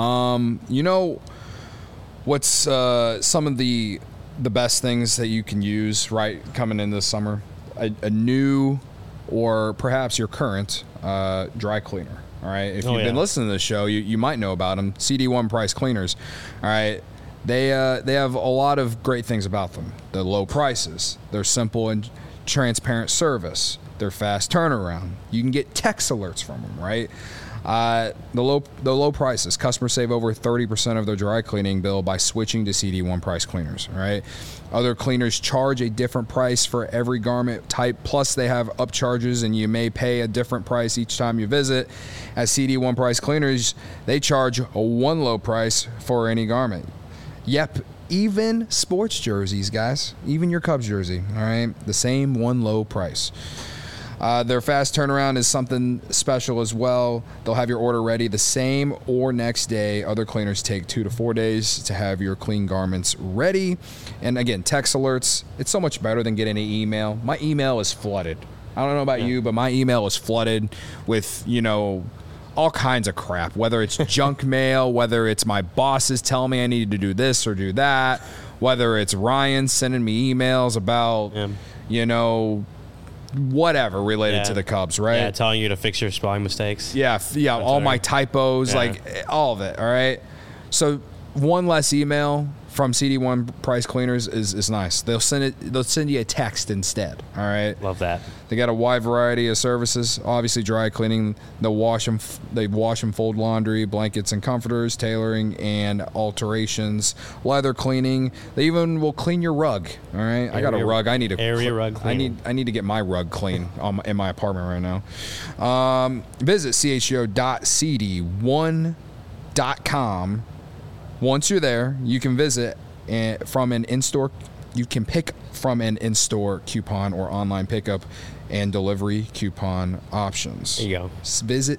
What's some of the best things that you can use coming in this summer? A new, or perhaps your current dry cleaner. All right, if you've been listening to the show, you might know about them. CD1 Price Cleaners. All right, they have a lot of great things about them. The low prices, their simple and transparent service, their fast turnaround. You can get text alerts from them. Right. The low prices. Customers save over 30% of their dry cleaning bill by switching to CD1 Price Cleaners. Right. Other cleaners charge a different price for every garment type. Plus, they have upcharges, and you may pay a different price each time you visit. At CD1 Price Cleaners, they charge one low price for any garment. Yep, even sports jerseys, guys. Even your Cubs jersey. All right, the same one low price. Their fast turnaround is something special as well. They'll have your order ready the same or next day. Other cleaners take 2 to 4 days to have your clean garments ready. And again, text alerts, it's so much better than getting an email. My email is flooded. I don't know about you, but my email is flooded with, all kinds of crap, whether it's junk mail, whether it's my bosses telling me I need to do this or do that, whether it's Ryan sending me emails about, whatever related to the Cubs, right? Yeah, telling you to fix your spelling mistakes. Yeah, all my typos, all of it, all right? So one less email from CD1 Price Cleaners is nice. They'll send you a text instead, all right? Love that. They got a wide variety of services. Obviously, dry cleaning. They wash and fold laundry, blankets and comforters, tailoring and alterations, leather cleaning. They even will clean your rug. All right, I got a rug. I need a rug cleaning. I need to get my rug clean in my apartment right now. Visit chgo.cd1.com. Once you're there, you can visit from an in-store. You can pick from an in-store coupon or online pickup and delivery coupon options. There you go. Visit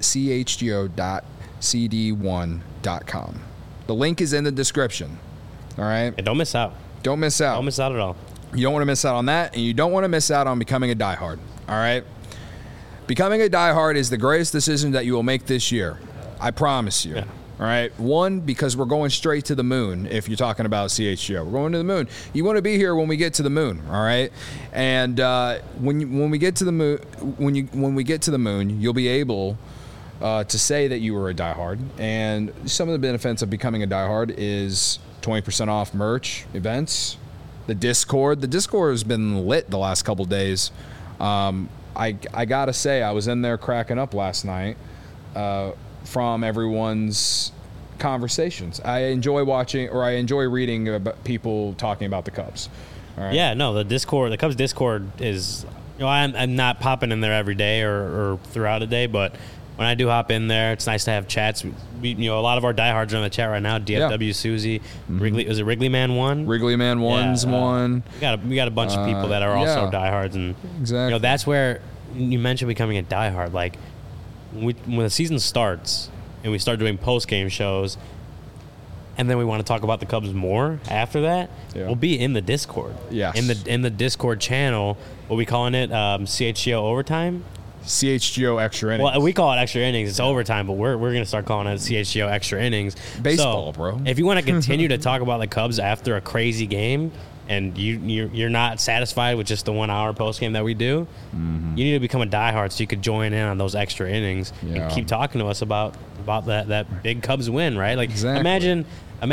chgo.cd1.com. The link is in the description. All right? And don't miss out. Don't miss out. Don't miss out at all. You don't want to miss out on that, and you don't want to miss out on becoming a diehard. All right? Becoming a diehard is the greatest decision that you will make this year. I promise you. Yeah. All right. One, because we're going straight to the moon. If you're talking about CHGO, we're going to the moon. You want to be here when we get to the moon. All right. And when we get to the moon, when we get to the moon, you'll be able to say that you were a diehard. And some of the benefits of becoming a diehard is 20% off merch, events, the Discord. The Discord has been lit the last couple days. I gotta say, I was in there cracking up last night. From everyone's conversations. I enjoy watching, or I enjoy reading about people talking about the Cubs. All right? Yeah, no, the Cubs Discord is, I'm not popping in there every day or throughout a day, but when I do hop in there, it's nice to have chats. A lot of our diehards are in the chat right now. DFW, Susie, Wrigley, is it Wrigley Man 1? Wrigley Man 1's one. We got a bunch of people that are also diehards, and exactly. That's where you mentioned becoming a diehard. Like, when the season starts and we start doing post-game shows and then we want to talk about the Cubs more after that, we'll be in the Discord. Yes. In the Discord channel, what we calling it? CHGO Overtime? CHGO Extra Innings. Well, we call it Extra Innings. It's overtime, but we're going to start calling it CHGO Extra Innings. Baseball, so, bro. If you want to continue to talk about the Cubs after a crazy game and you're not satisfied with just the 1 hour post game that we do, you need to become a diehard so you could join in on those extra innings and keep talking to us about that big Cubs win, right? Like imagine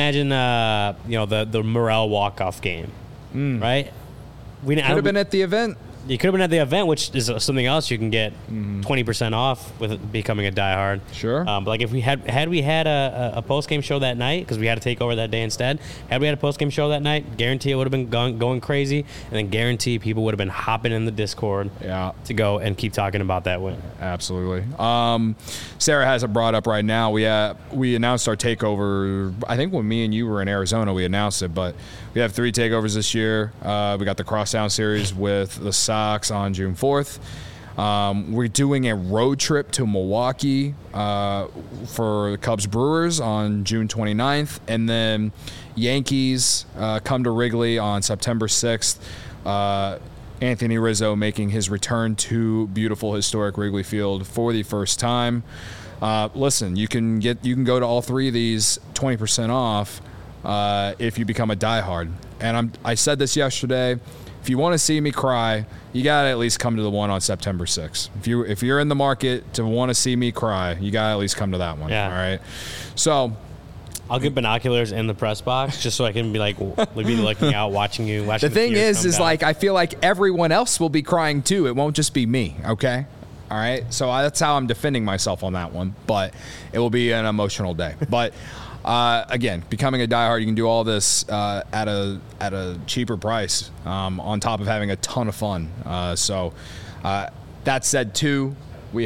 the Morel walk-off game, right? Could have been at the event. You could have been at the event, which is something else you can get 20% off with becoming a diehard. Sure. But like if we had a post game show that night, because we had to take over that day instead. Had we had a post game show that night, guarantee it would have been going crazy, and then guarantee people would have been hopping in the Discord to go and keep talking about that win. Absolutely. Sarah has it brought up right now. We announced our takeover. I think when me and you were in Arizona, we announced it, but we have 3 takeovers this year. We got the Crosstown Series with the Sox on June 4th. We're doing a road trip to Milwaukee for the Cubs Brewers on June 29th. And then Yankees come to Wrigley on September 6th. Anthony Rizzo making his return to beautiful historic Wrigley Field for the first time. Listen, you can go to all 3 of these 20% off if you become a diehard. And I said this yesterday. If you want to see me cry, you got to at least come to the one on September 6th. If you're in the market to want to see me cry, you got to at least come to that one. Yeah. All right. So I'll get binoculars in the press box just so I can be looking out, watching you. The thing is like I feel like everyone else will be crying too. It won't just be me. Okay. All right. So that's how I'm defending myself on that one. But it will be an emotional day. But again, becoming a diehard, you can do all this at a cheaper price on top of having a ton of fun. So that said, too, we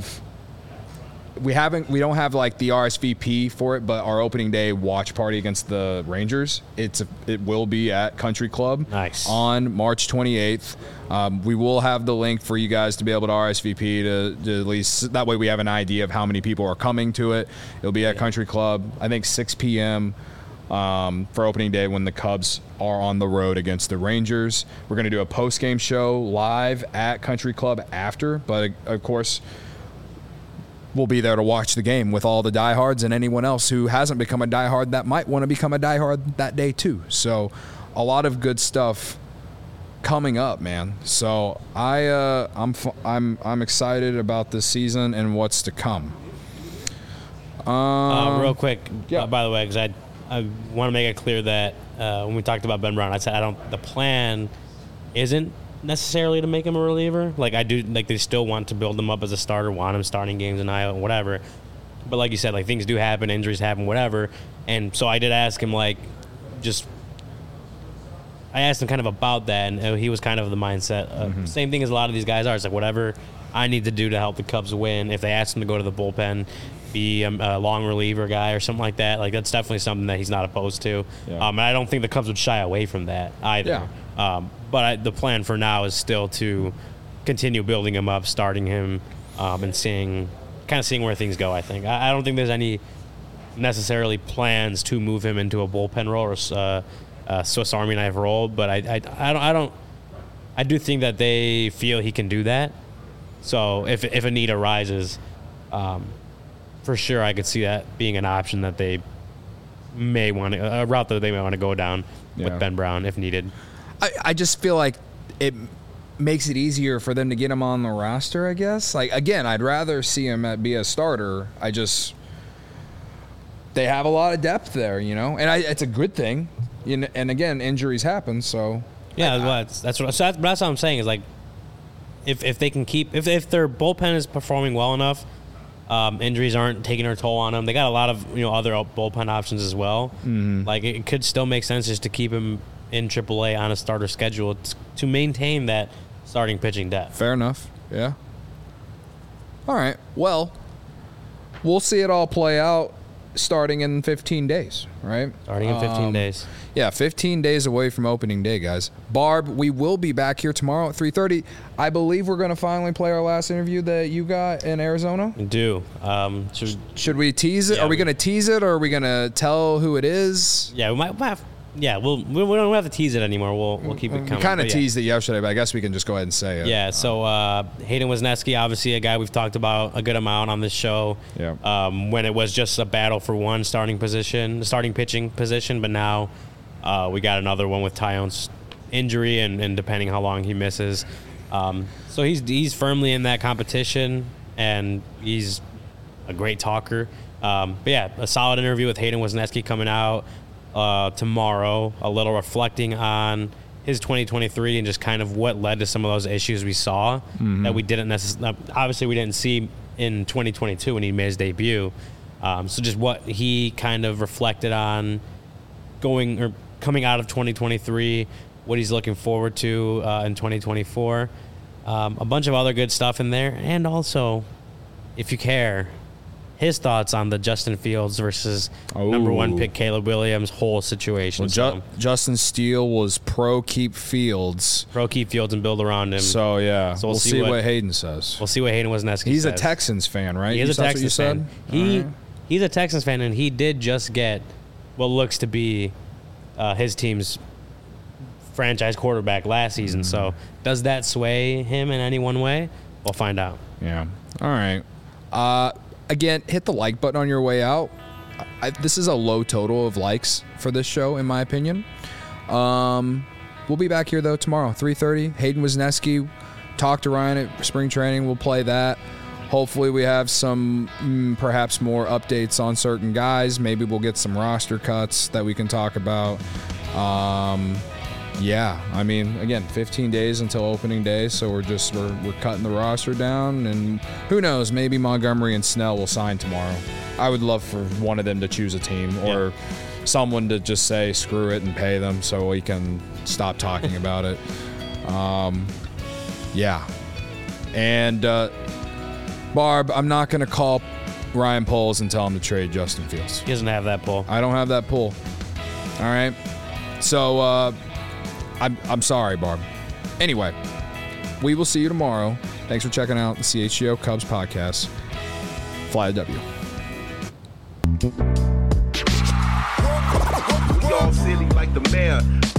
don't have like the RSVP for it, but our opening day watch party against the Rangers, it will be at Country Club on March 28th. We will have the link for you guys to be able to RSVP to at least, that way we have an idea of how many people are coming to it. It'll be at Country Club, I think 6 p.m. For opening day when the Cubs are on the road against the Rangers. We're going to do a post-game show live at Country Club after, but of course, we'll be there to watch the game with all the diehards and anyone else who hasn't become a diehard that might want to become a diehard that day too. So a lot of good stuff coming up, man. So I'm excited about this season and what's to come. Real quick, by the way, because I want to make it clear that when we talked about Ben Brown, I said the plan isn't necessarily to make him a reliever. Like I do, like they still want to build him up as a starter, want him starting games in Iowa, whatever. But like you said, like things do happen, injuries happen, whatever. And so I did ask him, I asked him kind of about that, and he was kind of the mindset of same thing as a lot of these guys are. It's like whatever I need to do to help the Cubs win. If they ask him to go to the bullpen, be a long reliever guy or something like that, like that's definitely something that he's not opposed to. Yeah. And I don't think the Cubs would shy away from that either. Yeah. But the plan for now is still to continue building him up, starting him, and seeing where things go. I think I don't think there's any necessarily plans to move him into a bullpen role or a Swiss Army knife role. But I do think that they feel he can do that. So if a need arises, for sure I could see that being an option that they may want to, a route that they may want to go down with Ben Brown if needed. I just feel like it makes it easier for them to get him on the roster, I guess. Like, again, I'd rather see him be a starter. They have a lot of depth there, you know, and it's a good thing. And again, injuries happen, so. Yeah, that's what I'm saying is, like, if they can keep, if their bullpen is performing well enough, injuries aren't taking their toll on them. They got a lot of other bullpen options as well. Mm-hmm. Like, it could still make sense just to keep him in AAA on a starter schedule to maintain that starting pitching depth. Fair enough. Yeah. All right. Well, we'll see it all play out starting in 15 days, right? Starting in 15 days. Yeah, 15 days away from opening day, guys. Barb, we will be back here tomorrow at 3:30. I believe we're going to finally play our last interview that you got in Arizona. We do. Should we tease it? Yeah, are we going to tease it, or are we going to tell who it is? Yeah, we might have. Yeah, we don't have to tease it anymore. We'll keep it coming. We kind of teased it yesterday, but I guess we can just go ahead and say it. Yeah, so Hayden Wesneski, obviously a guy we've talked about a good amount on this show. Yeah. When it was just a battle for one starting pitching position, but now we got another one with Tyone's injury and depending how long he misses. So he's firmly in that competition, and he's a great talker. But yeah, a solid interview with Hayden Wesneski coming out tomorrow, a little reflecting on his 2023 and just kind of what led to some of those issues we saw that we didn't obviously we didn't see in 2022 when he made his debut. So just what he kind of reflected on coming out of 2023, what he's looking forward to in 2024. A bunch of other good stuff in there, and also, if you care, his thoughts on the Justin Fields versus number one pick Caleb Williams whole situation. Well, Justin Steele was pro keep Fields. Pro keep Fields and build around him. So, yeah. So we'll see what Hayden says. We'll see what Hayden Wesneski says. He's a Texans fan, right? He is a Texans fan. He's a Texans fan, and he did just get what looks to be his team's franchise quarterback last season. So does that sway him in any one way? We'll find out. Yeah. All right. Again, hit the like button on your way out. This is a low total of likes for this show, in my opinion. We'll be back here, though, tomorrow, 3:30. Hayden Wesneski, talk to Ryan at spring training. We'll play that. Hopefully we have some, perhaps more updates on certain guys. Maybe we'll get some roster cuts that we can talk about. Yeah, I mean, again, 15 days until opening day, so we're cutting the roster down, and who knows, maybe Montgomery and Snell will sign tomorrow. I would love for one of them to choose a team, or someone to just say screw it and pay them so we can stop talking about it. Yeah. And Barb, I'm not going to call Ryan Poles and tell him to trade Justin Fields. He doesn't have that pull. I don't have that pull. All right? So, I'm sorry, Barb. Anyway, we will see you tomorrow. Thanks for checking out the CHGO Cubs podcast. Fly the W. We all silly like the mayor.